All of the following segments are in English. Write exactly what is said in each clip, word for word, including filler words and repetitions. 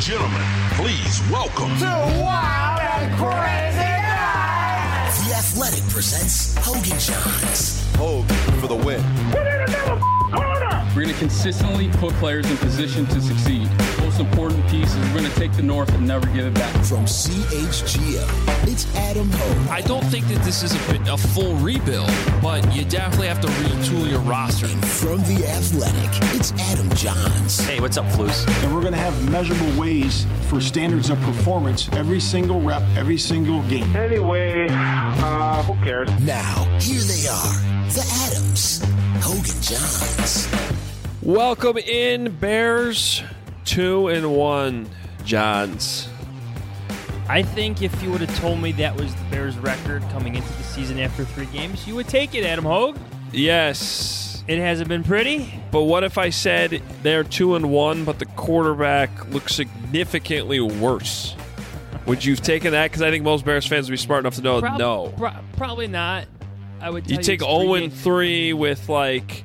gentlemen, please welcome to Wild and Crazy Night. The Athletic presents Hogan Johns. Hogue for the win. Put in another corner. We're going to consistently put players in position to succeed. Most important piece is we're going to take the North and never give it back. From C H G O, it's Adam Hogue. I don't think that this is a, a full rebuild, but you definitely have to retool your roster. And from The Athletic, it's Adam Johns. Hey, what's up, Flus? And we're going to have measurable ways for standards of performance every single rep, every single game. Anyway, uh, who cares? Now, here they are, the Adams, Hogan Johns. Welcome in, Bears. Two and one, Johns. I think if you would have told me that was the Bears' record coming into the season after three games, you would take it, Adam Hogue. Yes. It hasn't been pretty. But what if I said they're two and one, but the quarterback looks significantly worse? Would you have taken that? Because I think most Bears fans would be smart enough to know Prob- no. Pro- probably not. I would. Tell You you take zero zero and three with like.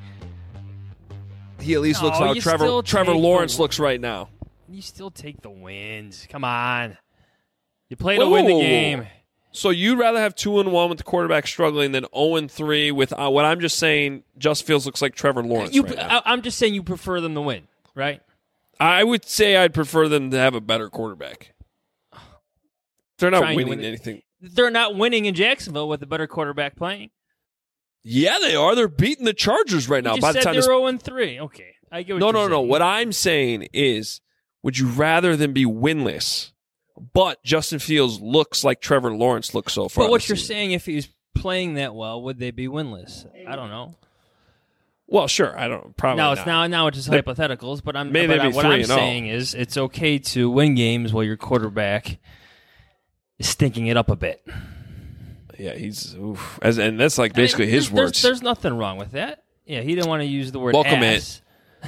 He at least No, looks how you Trevor still Trevor take Lawrence the- looks right now. You still take the wins. Come on. You play to win the game. So you'd rather have two and one with the quarterback struggling than zero and three with uh, what I'm just saying. Just feels looks like Trevor Lawrence. You, right now. I, I'm just saying you prefer them to win, right? I would say I'd prefer them to have a better quarterback. They're not Trying to winning win it. anything. They're not winning in Jacksonville with a better quarterback playing. Yeah, they are. They're beating the Chargers right now. You just By the said time they're this... zero and three. Okay, I get what no, you're no, saying. no. What I'm saying is, would you rather than be winless, but Justin Fields looks like Trevor Lawrence looks so far? But what this you're season? saying, if he was playing that well, would they be winless? I don't know. Well, sure. I don't. Probably Now not. it's now now it's just They- hypotheticals. But I'm Maybe but they'd I, be what three I'm and oh. saying is it's okay to win games while your quarterback is stinking it up a bit. Yeah, he's oof. As and that's like basically I mean, his there's, words. There's, there's nothing wrong with that. Yeah, he didn't want to use the word Welcome ass.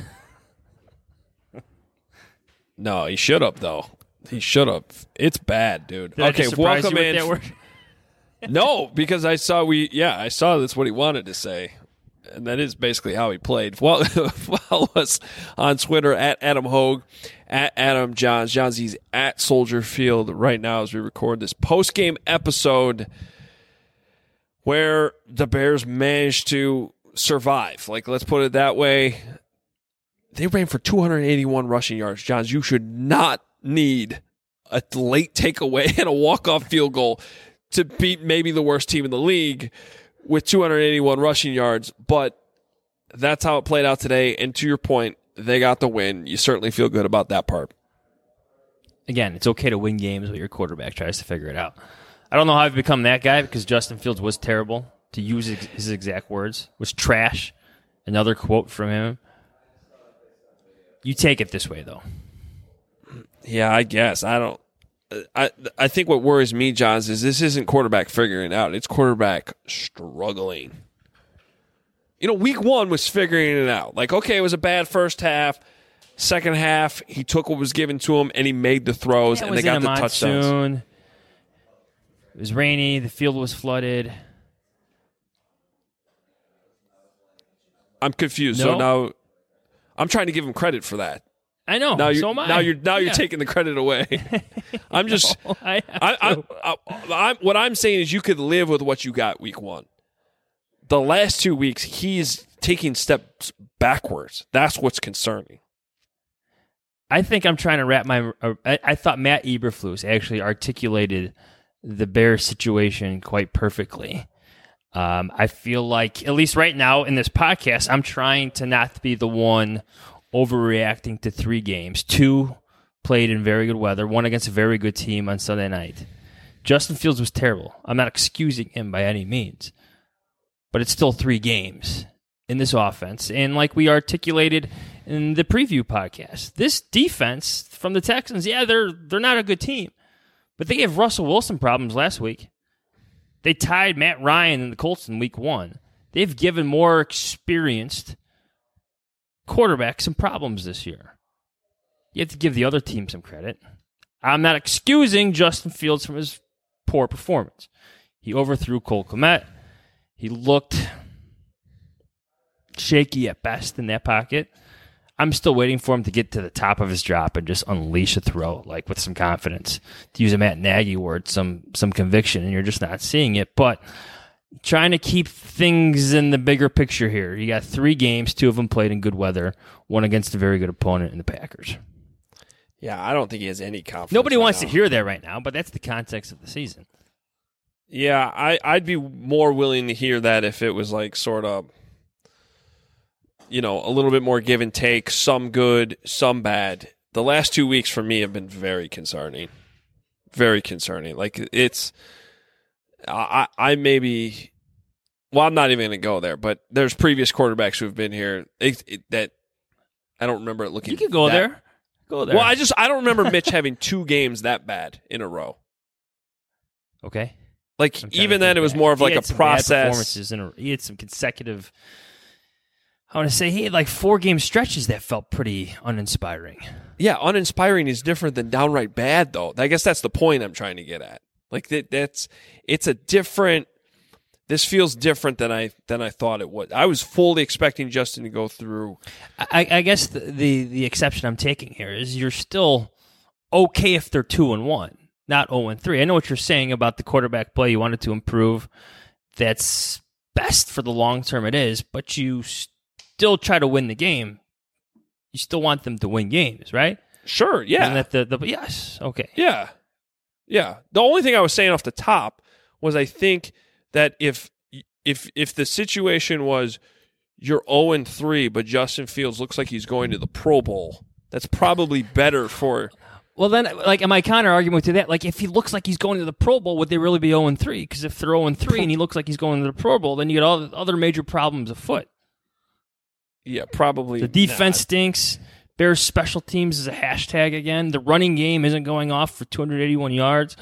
No, he should have though. He should have. It's bad, dude. Did I okay, just surprise welcome you in. with that word? No, because I saw we. Yeah, I saw that's what he wanted to say, and that is basically how he played. Well, follow us on Twitter at Adam Hogue, at Adam Johns. Johns, he's at Soldier Field right now as we record this post game episode, where the Bears managed to survive. Like, let's put it that way. They ran for two hundred eighty-one rushing yards. Johns, you should not need a late takeaway and a walk-off field goal to beat maybe the worst team in the league with two hundred eighty-one rushing yards. But that's how it played out today. And to your point, they got the win. You certainly feel good about that part. Again, it's okay to win games while your quarterback tries to figure it out. I don't know how I've become that guy because Justin Fields was terrible, to use his exact words, was trash. Another quote from him. You take it this way, though. Yeah, I guess. I don't. I I think what worries me, Johns, is this isn't quarterback figuring it out. It's quarterback struggling. You know, week one was figuring it out. Like, okay, it was a bad first half. Second half, he took what was given to him, and he made the throws, Yeah, it and was they got in the a touchdowns. monsoon. It was rainy. The field was flooded. I'm confused. No. So now I'm trying to give him credit for that. I know. Now you're, so am I. Now you're now Yeah. you're taking the credit away. I'm just. No, I have I, I, to. I, I, what I'm saying is you could live with what you got week one. The last two weeks, he's taking steps backwards. That's what's concerning. I think I'm trying to wrap my. Uh, I, I thought Matt Eberflus actually articulated the Bears situation quite perfectly. Um, I feel like, at least right now in this podcast, I'm trying to not be the one overreacting to three games. Two played in very good weather, one against a very good team on Sunday night. Justin Fields was terrible. I'm not excusing him by any means, but it's still three games in this offense. And like we articulated in the preview podcast, this defense from the Texans, yeah, they're they're not a good team, but they gave Russell Wilson problems last week. They tied Matt Ryan and the Colts in week one. They've given more experienced quarterbacks some problems this year. You have to give the other team some credit. I'm not excusing Justin Fields from his poor performance. He overthrew Cole Kmet. He looked shaky at best in that pocket. I'm still waiting for him to get to the top of his drop and just unleash a throw, like with some confidence. To use a Matt Nagy word, some some conviction, and you're just not seeing it. But trying to keep things in the bigger picture here. You got three games, two of them played in good weather, one against a very good opponent in the Packers. Yeah, I don't think he has any confidence. Nobody right wants now. to hear that right now, but that's the context of the season. Yeah, I, I'd be more willing to hear that if it was like sort of, you know, a little bit more give and take, some good, some bad. The last two weeks for me have been very concerning. Very concerning. Like, it's, I, I maybe, well, I'm not even going to go there, but there's previous quarterbacks who've been here it, it, that I don't remember it looking. You could go that, there. Go there. Well, I just, I don't remember Mitch having two games that bad in a row. Okay. Like, even then, it was more of He like had a some bad process. Performances in a, he had some consecutive, I want to say, he had like four game stretches that felt pretty uninspiring. Yeah, uninspiring is different than downright bad, though. I guess that's the point I'm trying to get at. Like that, that's it's a different. This feels different than I than I thought it would. I was fully expecting Justin to go through. I, I guess the, the the exception I'm taking here is you're still okay if they're two and one, not zero and three. I know what you're saying about the quarterback play. You wanted to improve. That's best for the long term. It is, but you still try to win the game. You still want them to win games, right? Sure. Yeah. Isn't that the, the yes. Okay. Yeah. Yeah. The only thing I was saying off the top was I think that if if if the situation was you're zero and three, but Justin Fields looks like he's going to the Pro Bowl, that's probably better for. Well, then, like, my counter argument to that, like, if he looks like he's going to the Pro Bowl, would they really be zero and three? Because if they're zero and three and he looks like he's going to the Pro Bowl, then you get all the other major problems afoot. Yeah, probably. The defense not. stinks. Bears special teams is a hashtag again. The running game isn't going off for two hundred eighty-one yards.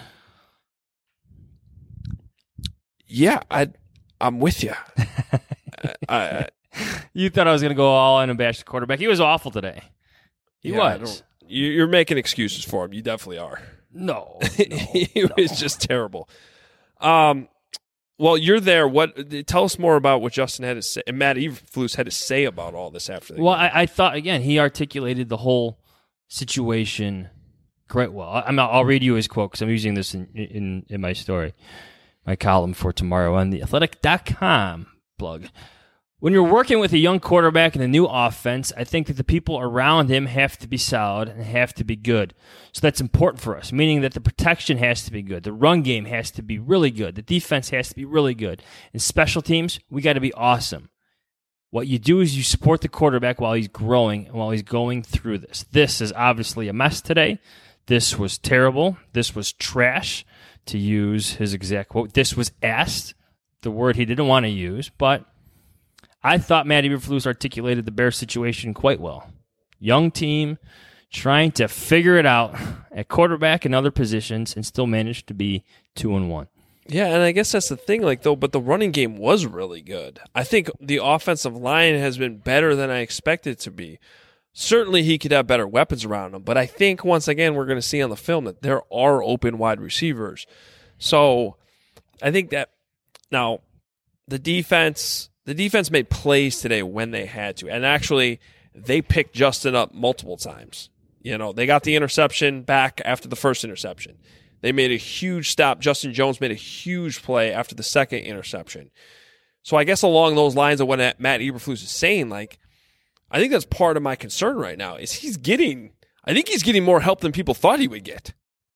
Yeah, I, I'm with you. I, I, you thought I was going to go all in and bash the quarterback. He was awful today. He yeah, was. You, you're making excuses for him. You definitely are. No, no he no. was just terrible. Um, well, you're there. What? Tell us more about what Justin had to say. And Matt Eberflus had to say about all this after the Well, game. I, I thought again he articulated the whole situation quite well. I, I'm, I'll read you his quote because I'm using this in, in in my story, my column for tomorrow on the athletic dot com blog. When you're working with a young quarterback in a new offense, I think that the people around him have to be solid and have to be good. So that's important for us, meaning that the protection has to be good. The run game has to be really good. The defense has to be really good. In special teams, we got to be awesome. What you do is you support the quarterback while he's growing and while he's going through this. This is obviously a mess today. This was terrible. This was trash, to use his exact quote. This was asked, the word he didn't want to use, but I thought Matt Eberflus articulated the Bears situation quite well. Young team, trying to figure it out at quarterback and other positions, and still managed to be two and one. Yeah, and I guess that's the thing, like though. But the running game was really good. I think the offensive line has been better than I expected it to be. Certainly, he could have better weapons around him, but I think once again we're going to see on the film that there are open wide receivers. So I think that now the defense. The defense made plays today when they had to. And actually, they picked Justin up multiple times. You know, they got the interception back after the first interception. They made a huge stop. Justin Jones made a huge play after the second interception. So I guess along those lines of what Matt Eberflus is saying, like, I think that's part of my concern right now is he's getting, I think he's getting more help than people thought he would get.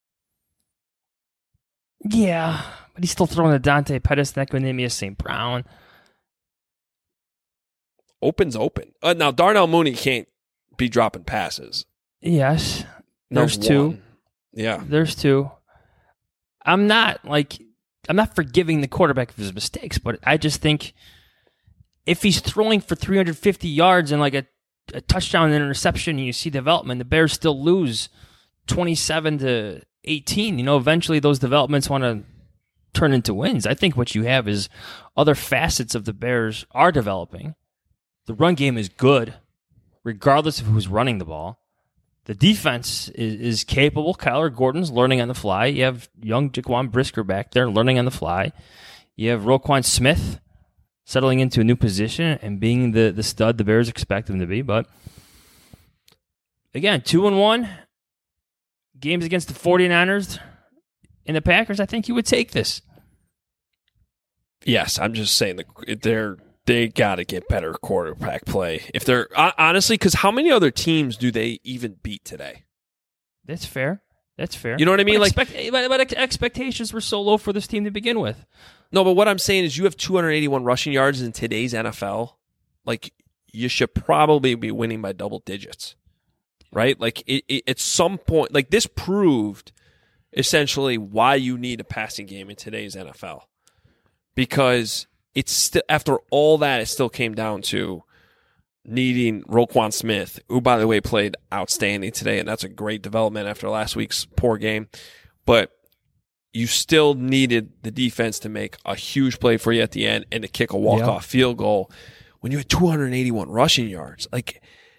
Yeah, but he's still throwing to Dante Pettis, Nequinemius Saint Brown. Open's open. Uh, now, Darnell Mooney can't be dropping passes. Yes. There's That's two. one. Yeah. There's two. I'm not, like, I'm not forgiving the quarterback of his mistakes, but I just think if he's throwing for three hundred fifty yards and, like, a, a touchdown and interception and you see development, the Bears still lose twenty-seven to eighteen. You know, eventually those developments want to turn into wins. I think what you have is other facets of the Bears are developing. The run game is good, regardless of who's running the ball. The defense is, is capable. Kyler Gordon's learning on the fly. You have young Jaquan Brisker back there learning on the fly. You have Roquan Smith settling into a new position and being the, the stud the Bears expect him to be. But again, two and one games against the 49ers and the Packers. I think you would take this. Yes, I'm just saying that they're they got to get better quarterback play. If they're honestly, because how many other teams do they even beat today? That's fair. That's fair. You know what I mean? But Like, expect, but, but expectations were so low for this team to begin with. No, but what I'm saying is, you have two hundred eighty-one rushing yards in today's N F L. Like, you should probably be winning by double digits, right? Like, it, it, at some point, like this proved essentially why you need a passing game in today's N F L. Because it's still, after all that, it still came down to needing Roquan Smith, who, by the way, played outstanding today, and that's a great development after last week's poor game. But you still needed the defense to make a huge play for you at the end and to kick a walk-off yep. field goal when you had two hundred eighty-one rushing yards. Like,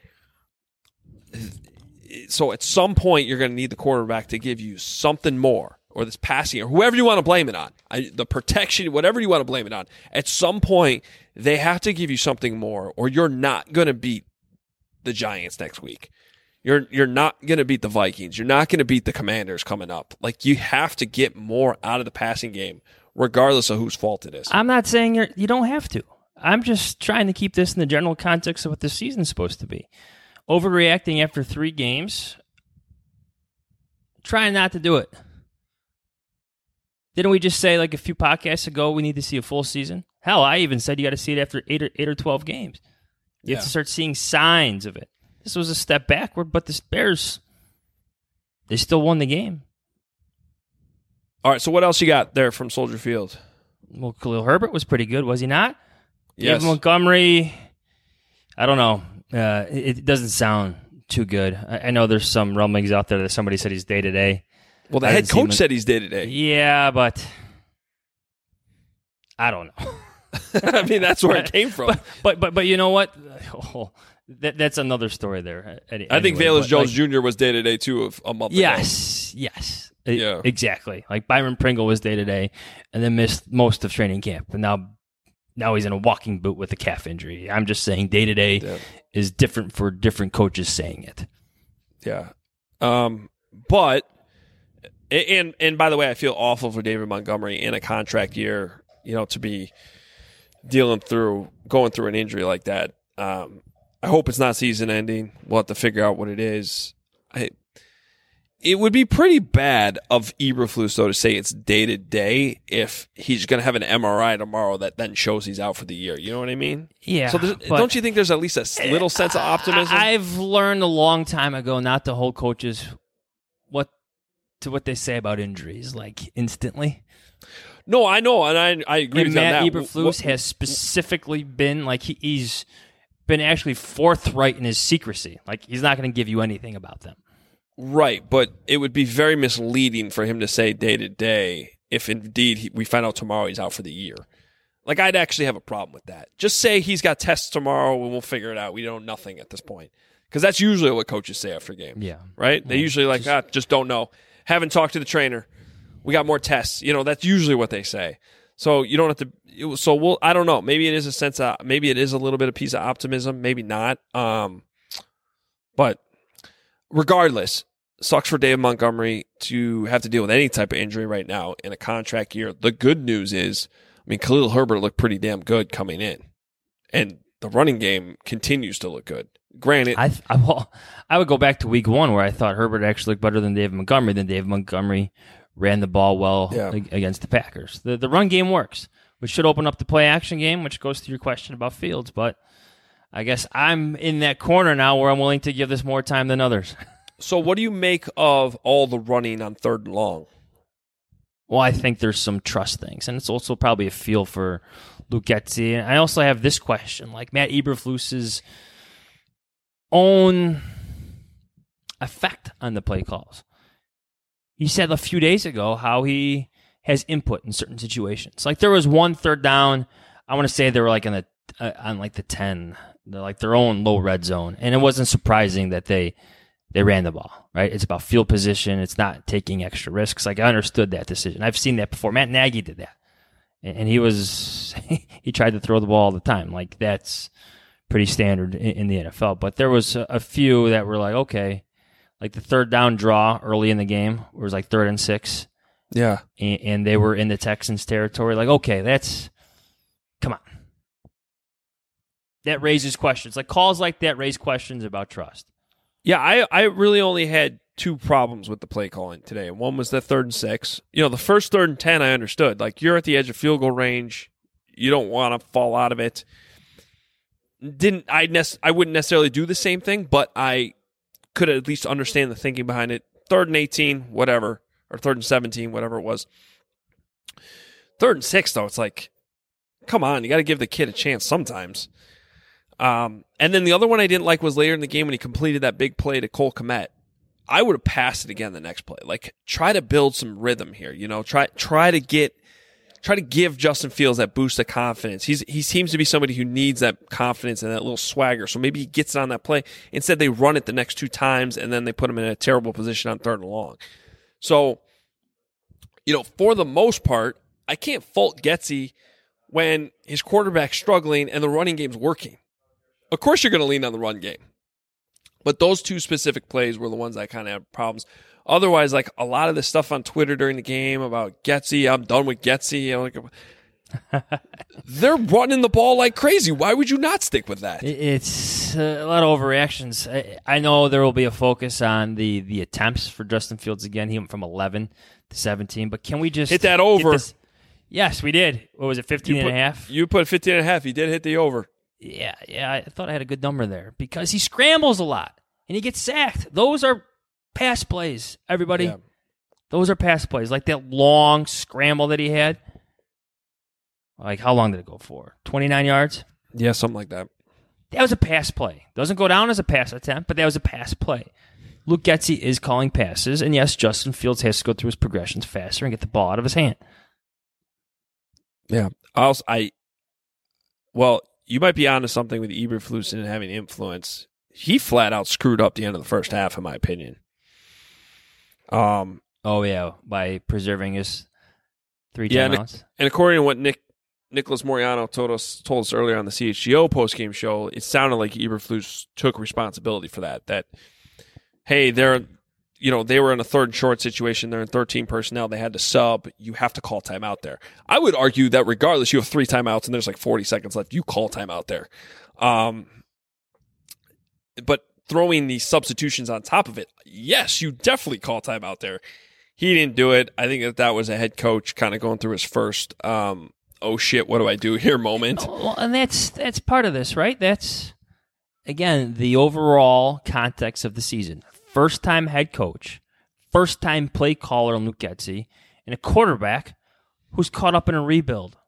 so at some point, you're going to need the quarterback to give you something more. Or this passing, or whoever you want to blame it on, I, the protection, whatever you want to blame it on. At some point, they have to give you something more, or you're not going to beat the Giants next week. You're you're not going to beat the Vikings. You're not going to beat the Commanders coming up. Like, you have to get more out of the passing game, regardless of whose fault it is. I'm not saying you're, you don't have to. I'm just trying to keep this in the general context of what the season's supposed to be. Overreacting after three games, trying not to do it. Didn't we just say, like a few podcasts ago, we need to see a full season? Hell, I even said you got to see it after eight or, eight or twelve games. You yeah. have to start seeing signs of it. This was a step backward, but the Bears, they still won the game. All right, so what else you got there from Soldier Field? Well, Khalil Herbert was pretty good, was he not? Yes. David Montgomery, I don't know. Uh, it, it doesn't sound too good. I, I know there's some rumblings out there that somebody said he's day-to-day. Well, the I head coach said he's day-to-day. Yeah, but I don't know. I mean, that's where it came from. But but but, but you know what? Oh, that, that's another story there. Anyway, I think Valus Jones like, Junior was day-to-day, too, of a month yes, ago. Yes, yes. Yeah. Exactly. Like Byron Pringle was day-to-day and then missed most of training camp. And now now he's in a walking boot with a calf injury. I'm just saying day-to-day yeah. is different for different coaches saying it. Yeah. Um, but... And and by the way, I feel awful for David Montgomery in a contract year, you know, to be dealing through, going through an injury like that. Um, I hope it's not season ending. We'll have to figure out what it is. I, it would be pretty bad of Eberflus, though, to say it's day to day if he's going to have an M R I tomorrow that then shows he's out for the year. You know what I mean? Yeah. So don't you think there's at least a little sense of optimism? I've learned a long time ago not to hold coaches what to what they say about injuries, like instantly. No, I know, and I I agree and with Matt that. Eberflus what, has specifically been like he, he's been actually forthright in his secrecy. Like he's not going to give you anything about them. Right, but it would be very misleading for him to say day to day if indeed he, we find out tomorrow he's out for the year. Like I'd actually have a problem with that. Just say he's got tests tomorrow and we'll figure it out. We know nothing at this point. Because that's usually what coaches say after games. Yeah. Right? They yeah. usually like, just, ah, just don't know. Haven't talked to the trainer. We got more tests. You know, that's usually what they say. So you don't have to. So we'll. I don't know. Maybe it is a sense of. Maybe it is a little bit of piece of optimism. Maybe not. Um, but regardless, sucks for David Montgomery to have to deal with any type of injury right now in a contract year. The good news is, I mean, Khalil Herbert looked pretty damn good coming in, and the running game continues to look good. Granted, I I, well, I would go back to week one where I thought Herbert actually looked better than David Montgomery. Then David Montgomery ran the ball well yeah. against the Packers. The the run game works, which should open up the play action game, which goes to your question about Fields. But I guess I'm in that corner now where I'm willing to give this more time than others. So what do you make of all the running on third and long? Well, I think there's some trust things, and it's also probably a feel for Luke Getsy. And I also have this question, like Matt Eberflus's own effect on the play calls. He said a few days ago how he has input in certain situations. Like there was one third down, I want to say they were like in the uh, on like the ten, they're like their own low red zone, and it wasn't surprising that they they ran the ball. Right? It's about field position. It's not taking extra risks. Like I understood that decision. I've seen that before. Matt Nagy did that, and he was he tried to throw the ball all the time. Like that's pretty standard in, in the N F L. But there was a, a few that were like, okay, like the third down draw early in the game, where it was like third and six, Yeah. and, and they were in the Texans' territory. Like, okay, that's come on. That raises questions. Like calls like that raise questions about trust. Yeah, I, I really only had two problems with the play calling today. One was the third and six. You know, the first third and ten I understood. Like, you're at the edge of field goal range. You don't want to fall out of it. Didn't I nec- I wouldn't necessarily do the same thing, but I could at least understand the thinking behind it. Third and eighteen, whatever. Or third and seventeen, whatever it was. Third and six, though, it's like, come on, you got to give the kid a chance sometimes. Um, and then the other one I didn't like was later in the game when he completed that big play to Cole Kmet. I would have passed it again the next play. Like, try to build some rhythm here. You know, try try to get, try to give Justin Fields that boost of confidence. He's he seems to be somebody who needs that confidence and that little swagger. So maybe he gets it on that play. Instead, they run it the next two times and then they put him in a terrible position on third and long. So, you know, for the most part, I can't fault Getsy when his quarterback's struggling and the running game's working. Of course you're going to lean on the run game. But those two specific plays were the ones I kind of had problems. Otherwise, like a lot of the stuff on Twitter during the game about Getsy, I'm done with Getsy. I'm like, they're running the ball like crazy. Why would you not stick with that? It's a lot of overreactions. I, I know there will be a focus on the, the attempts for Justin Fields again. He went from eleven to seventeen. But can we just hit that over? This? Yes, we did. What was it, fifteen you put, and a half? You put fifteen and a half. He did hit the over. Yeah, yeah, I thought I had a good number there because he scrambles a lot and he gets sacked. Those are pass plays, everybody. Yeah. Those are pass plays. Like that long scramble that he had. Like, how long did it go for? twenty-nine yards? Yeah, something like that. That was a pass play. Doesn't go down as a pass attempt, but that was a pass play. Luke Getsy is calling passes, and yes, Justin Fields has to go through his progressions faster and get the ball out of his hand. Yeah. Also, I, well, you might be onto something with Eberflus and having influence. He flat out screwed up the end of the first half, in my opinion. Um. Oh yeah, by preserving his three yeah, timeouts. And, and according to what Nick Nicholas Moriano told us told us earlier on the C H G O postgame show, it sounded like Eberflus took responsibility for that. That hey, they're you know they were in a third and short situation. They're in thirteen personnel. They had to sub. You have to call timeout there. I would argue that regardless, you have three timeouts and there's like forty seconds left. You call timeout there. Um, but throwing these substitutions on top of it, yes, you definitely call timeout there. He didn't do it. I think that that was a head coach kind of going through his first, um, oh shit, what do I do here moment. Well, and that's that's part of this, right? That's, again, the overall context of the season. First-time head coach, first-time play caller Luke Getsy, and a quarterback who's caught up in a rebuild.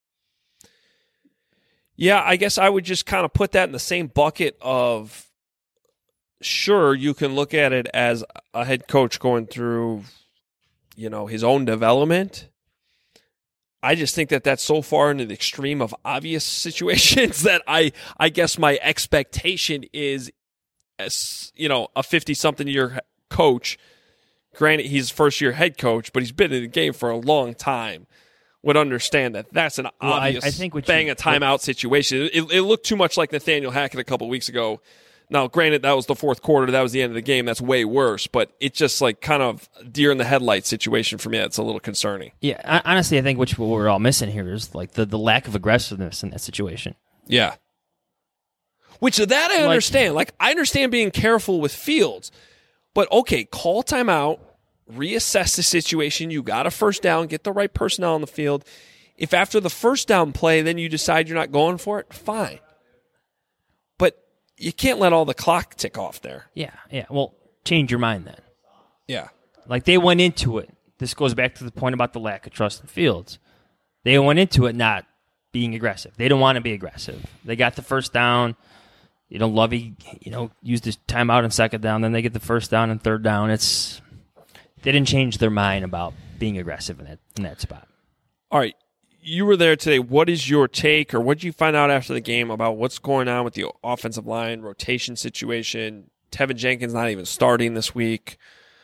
Yeah, I guess I would just kind of put that in the same bucket of, sure, you can look at it as a head coach going through, you know, his own development. I just think that that's so far into the extreme of obvious situations that I, I guess my expectation is, as you know, a fifty-something year coach. Granted, he's first-year head coach, but he's been in the game for a long time. Would understand that that's an well, obvious I, I think bang you, a timeout situation. It, it looked too much like Nathaniel Hackett a couple weeks ago. Now, granted, that was the fourth quarter. That was the end of the game. That's way worse. But it's just like kind of deer in the headlights situation for me. That's a little concerning. Yeah, honestly, I think which what we're all missing here is like the, the lack of aggressiveness in that situation. Yeah. Which that I understand. Like, I understand being careful with Fields. But, okay, call timeout, reassess the situation. You got a first down, get the right personnel on the field. If after the first down play, then you decide you're not going for it, fine. But you can't let all the clock tick off there. Yeah, yeah. Well, change your mind then. Yeah. Like, they went into it. This goes back to the point about the lack of trust in Fields. They went into it not being aggressive. They don't want to be aggressive. They got the first down. You know, Lovey, you know, used his timeout and second down. Then they get the first down and third down. It's they didn't change their mind about being aggressive in that in that spot. All right, you were there today. What is your take, or what did you find out after the game about what's going on with the offensive line rotation situation? Tevin Jenkins not even starting this week.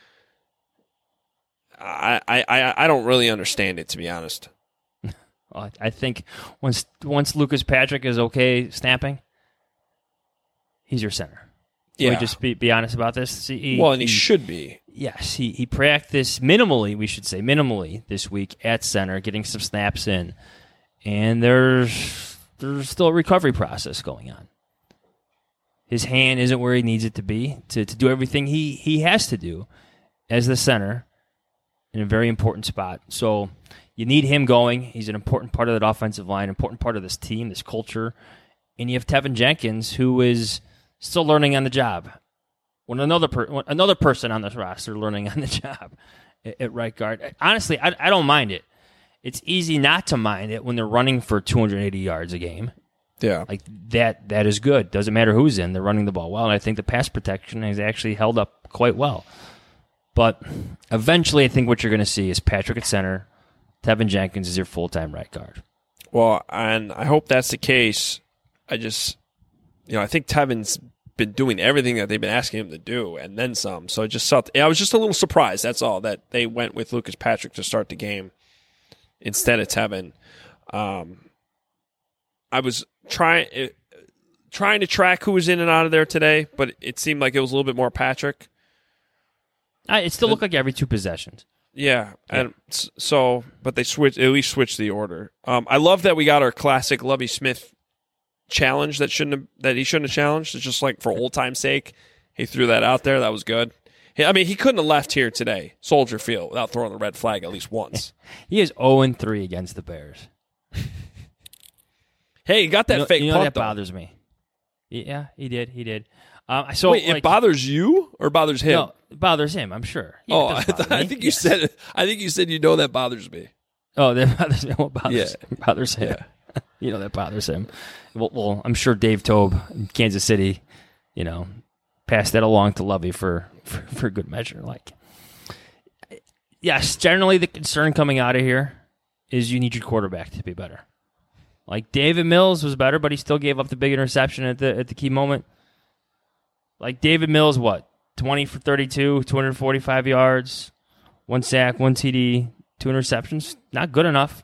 I I I don't really understand it, to be honest. Well, I think once once Lucas Patrick is okay snapping, he's your center. Can Yeah. we just be, be honest about this? He, Well, and he, he should be. Yes, he, he practiced minimally, we should say, minimally this week at center, getting some snaps in. And there's there's still a recovery process going on. His hand isn't where he needs it to be to, to do everything he, he has to do as the center in a very important spot. So you need him going. He's an important part of that offensive line, important part of this team, this culture. And you have Tevin Jenkins, who is still learning on the job. When another per, when another person on this roster learning on the job at, at right guard. Honestly, I, I don't mind it. It's easy not to mind it when they're running for two hundred eighty yards a game. Yeah. Like that that is good. Doesn't matter who's in, they're running the ball well, and I think the pass protection has actually held up quite well. But eventually I think what you're going to see is Patrick at center, Tevin Jenkins is your full-time right guard. Well, and I hope that's the case. I just, you know, I think Tevin's been doing everything that they've been asking him to do, and then some. So I just felt, I was just a little surprised, that's all, that they went with Lucas Patrick to start the game instead of Tevin. Um, I was trying trying to track who was in and out of there today, but it seemed like it was a little bit more Patrick. I, it still looked like every two possessions. Yeah, and so, but they switched, at least switched the order. Um, I love that we got our classic Lovie Smith challenge that shouldn't have, that he shouldn't have challenged. It's just like for old time's sake, he threw that out there. That was good. He, I mean, he couldn't have left here today, Soldier Field, without throwing the red flag at least once. He is oh and three against the Bears. Hey, he got that you know, fake you know punt, that though. bothers me. Yeah, he did. He did. Um, so Wait, like, it bothers you or bothers him? No, it bothers him. I'm sure. Yeah, oh, it I, does bother th- I me. think you Yes. said. I think you said you know that bothers me. Oh, that bothers me. What bothers, Yeah. bothers him? You know that bothers him. Well, well, I'm sure Dave Tobe in Kansas City, you know, passed that along to Lovey for, for, for good measure. Like, yes, generally the concern coming out of here is you need your quarterback to be better. Like David Mills was better, but he still gave up the big interception at the at the key moment. Like David Mills, what twenty for thirty-two, two hundred forty-five yards, one sack, one T D, two interceptions. Not good enough.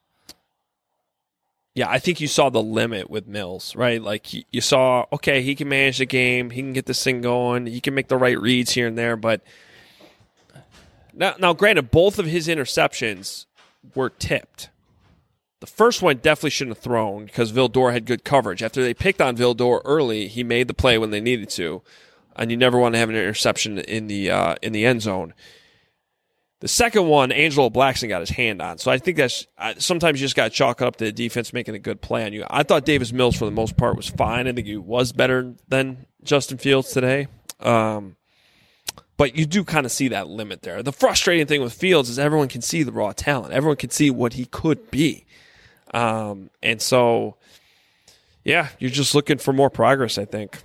Yeah, I think you saw the limit with Mills, right? Like he, you saw, okay, he can manage the game, he can get this thing going, he can make the right reads here and there, but now, now granted, both of his interceptions were tipped. The first one definitely shouldn't have thrown because Vildor had good coverage. After they picked on Vildor early, he made the play when they needed to, and you never want to have an interception in the uh, in the end zone. The second one, Angelo Blackson got his hand on. So I think that's uh, sometimes you just got to chalk it up to the defense making a good play on you. I thought Davis Mills, for the most part, was fine. I think he was better than Justin Fields today. Um, but you do kind of see that limit there. The frustrating thing with Fields is everyone can see the raw talent. Everyone can see what he could be. Um, and so, yeah, you're just looking for more progress, I think.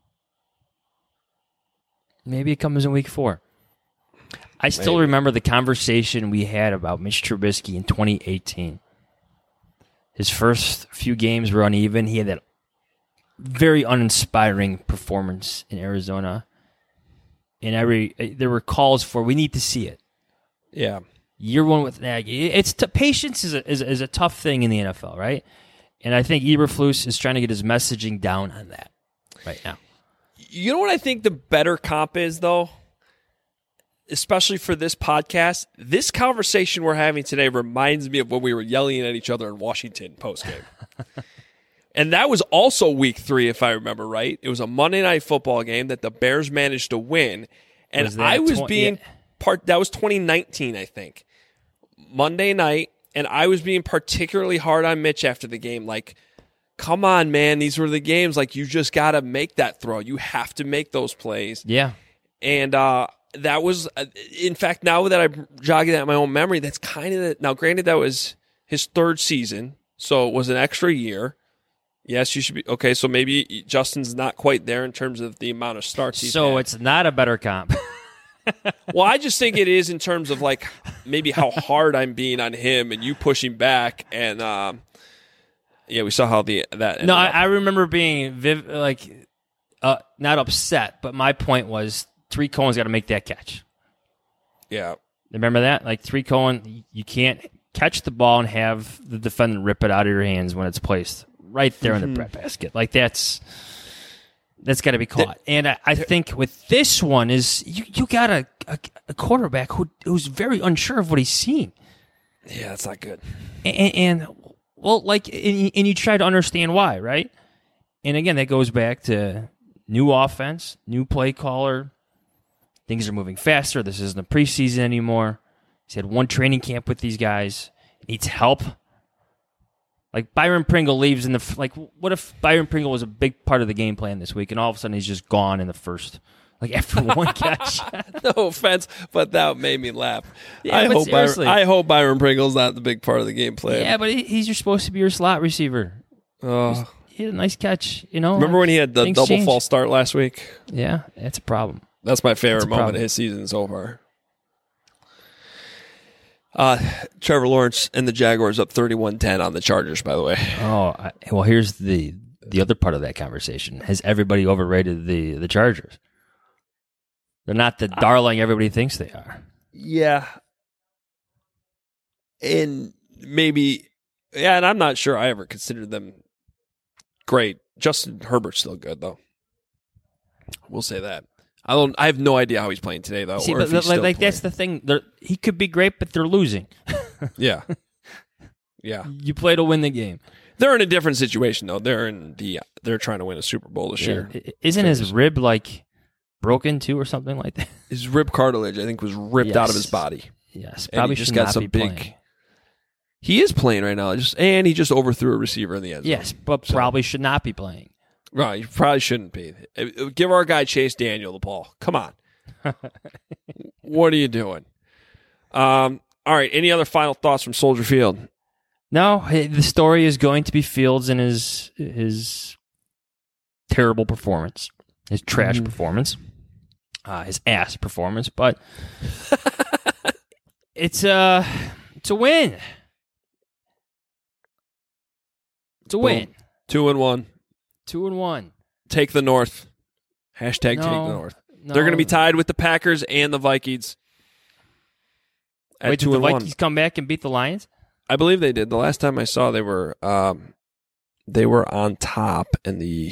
Maybe it comes in week four. I still Maybe. remember the conversation we had about Mitch Trubisky in twenty eighteen. His first few games were uneven. He had that very uninspiring performance in Arizona. And every there were calls for, we need to see it. Yeah. Year one with Nagy. It's t- patience is a, is, is a tough thing in the N F L, right? And I think Eberflus is trying to get his messaging down on that right now. You know what I think the better comp is, though? Especially for this podcast, this conversation we're having today reminds me of when we were yelling at each other in Washington postgame. And that was also week three, if I remember right. It was a Monday Night Football game that the Bears managed to win. And Was that I was tw- being yeah. part, that was twenty nineteen, I think. Monday night, and I was being particularly hard on Mitch after the game. Like, come on, man, these were the games. Like, you just got to make that throw. You have to make those plays. Yeah. And uh, that was, uh, in fact, now that I'm jogging at my own memory, that's kind of the, now granted that was his third season, so it was an extra year. Yes, you should be, okay, so maybe Justin's not quite there in terms of the amount of starts he's So had. it's not a better comp. Well, I just think it is in terms of like maybe how hard I'm being on him and you pushing back, and um, yeah, we saw how the that. No, I, ended up. I remember being viv- like uh, not upset, but my point was Tariq Cohen's got to make that catch. yeah, Remember that? Like Tariq Cohen, you can't catch the ball and have the defendant rip it out of your hands when it's placed right there in the bread basket. Like that's That's got to be caught. And I, I think with this one is you, you got a, a, a quarterback who who's very unsure of what he's seeing. Yeah, that's not good. And, and well, like, and, and you try to understand why, right? And again, that goes back to new offense, new play caller. Things are moving faster. This isn't a preseason anymore. He's had one training camp with these guys. Needs help. Like Byron Pringle leaves in the like. What if Byron Pringle was a big part of the game plan this week, and all of a sudden he's just gone in the first, like after one catch? No offense, but that made me laugh. Yeah, I but hope Byron, seriously. I hope Byron Pringle's not the big part of the game plan. Yeah, but he, he's your supposed to be your slot receiver. Oh. He had a nice catch, you know. Remember when he had the Things double change. false start last week? Yeah, that's a problem. That's my favorite That's a moment problem. of his season so far. Uh, Trevor Lawrence and the Jaguars up thirty-one ten on the Chargers, by the way. Oh, I, well, here's the the other part of that conversation. Has everybody overrated the the Chargers? They're not the darling everybody thinks they are. Yeah. And maybe, yeah, and I'm not sure I ever considered them great. Justin Herbert's still good, though. We'll say that. I don't. I have no idea how he's playing today, though. See, or but if he's like, still like that's playing. the thing. They're, he could be great, but they're losing. Yeah. Yeah. You play to win the game. They're in a different situation, though. They're in the. They're trying to win a Super Bowl this year. I- Isn't his rib like broken too, or something like that? His rib cartilage, I think, was ripped out of his Yes. body. Yes, And he probably just should got not some be big- playing. He is playing right now, just and he just overthrew a receiver in the end zone. Yes, but So- probably should not be playing. Right, you probably shouldn't be. Give our guy Chase Daniel the ball. Come on. What are you doing? Um. All right. Any other final thoughts from Soldier Field? No, eh, the story is going to be Fields and his his terrible performance, his trash performance, uh, his ass performance. But it's a it's a win. It's a win. Two and one. Two and one. Take the North. Hashtag take No, the North. no. They're going to be tied with the Packers and the Vikings. At Wait, two did the and Vikings one. come back and beat the Lions? I believe they did. The last time I saw, they were um, they were on top in the.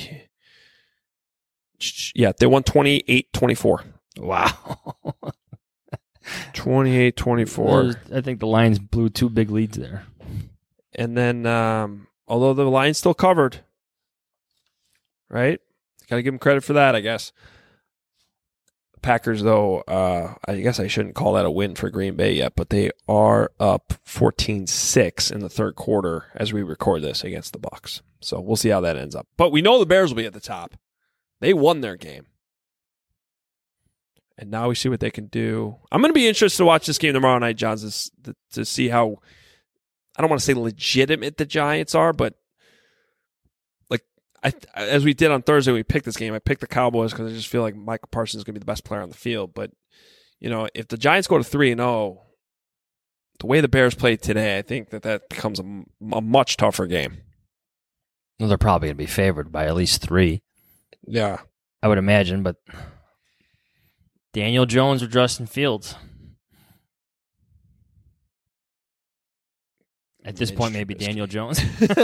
Yeah, they won twenty-eight twenty-four. Wow. twenty-eight twenty-four. Those- I think the Lions blew two big leads there. And then, um, although the Lions still covered, right? Got to give them credit for that, I guess. Packers, though, uh, I guess I shouldn't call that a win for Green Bay yet, but they are up fourteen six in the third quarter as we record this against the Bucs. So we'll see how that ends up. But we know the Bears will be at the top. They won their game. And now we see what they can do. I'm going to be interested to watch this game tomorrow night, Johns, to, to see how, I don't want to say legitimate the Giants are, but like I, as we did on Thursday, we picked this game. I picked the Cowboys because I just feel like Michael Parsons is going to be the best player on the field. But, you know, if the Giants go to three and oh, the way the Bears played today, I think that that becomes a, a much tougher game. Well, they're probably going to be favored by at least three. Yeah. I would imagine, but Daniel Jones or Justin Fields? At this Mitch point, maybe Trubisky. Daniel Jones.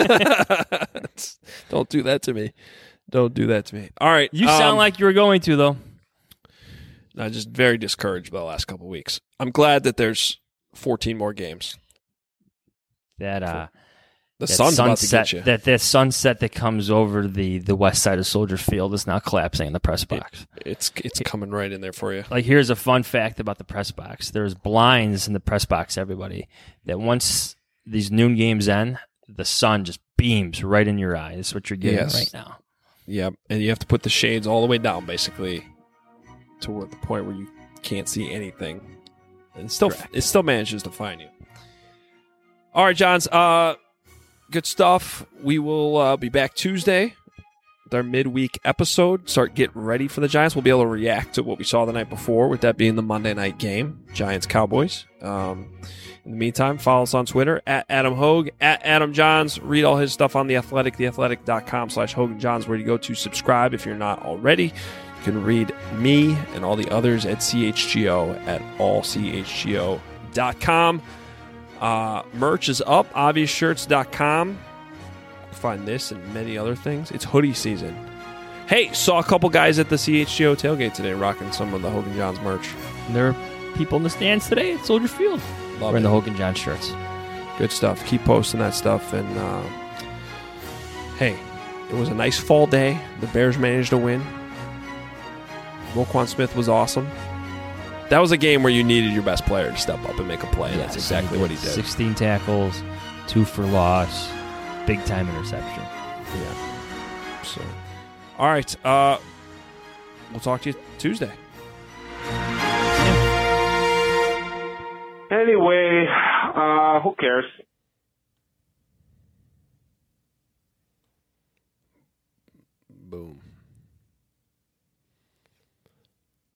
Don't do that to me. Don't do that to me. All right. You sound um, like you were going to, though. I'm just very discouraged by the last couple of weeks. I'm glad that there's fourteen more games. That uh, The that sun's about to sunset, get you. that that sunset that comes over the, the west side of Soldier Field is now collapsing in the press box. It's it's coming right in there for you. Like, here's a fun fact about the press box. There's blinds in the press box, everybody, that once these noon games end, the sun just beams right in your eye. That's what you're getting Yes. right now. Yep, and you have to put the shades all the way down, basically, to where, the point where you can't see anything. And it still, it still manages to find you. All right, Johns. Uh, good stuff. We will uh, be back Tuesday with our midweek episode. Start getting ready for the Giants. We'll be able to react to what we saw the night before, with that being the Monday night game, Giants Cowboys. Um, in the meantime, follow us on Twitter at Adam Hogue, at Adam Johns. Read all his stuff on The Athletic, theathletic.com slash Hogan Johns, where you go to subscribe if you're not already. You can read me and all the others at C H G O at all C H G O dot com. Uh, merch is up, obvious shirts dot com. Find this and many other things. It's hoodie season. Hey, saw a couple guys at the C H G O tailgate today rocking some of the Hogan Johns merch. And there are people in the stands today at Soldier Field. Love We're in it. the Hogan John shirts. Good stuff. Keep posting that stuff. And uh, hey, it was a nice fall day. The Bears managed to win. Roquan Smith was awesome. That was a game where you needed your best player to step up and make a play. And Yes, that's exactly what he did. sixteen tackles, two for loss, big time interception. Yeah. So, all right. Uh, we'll talk to you Tuesday. Anyway, uh, who cares? Boom.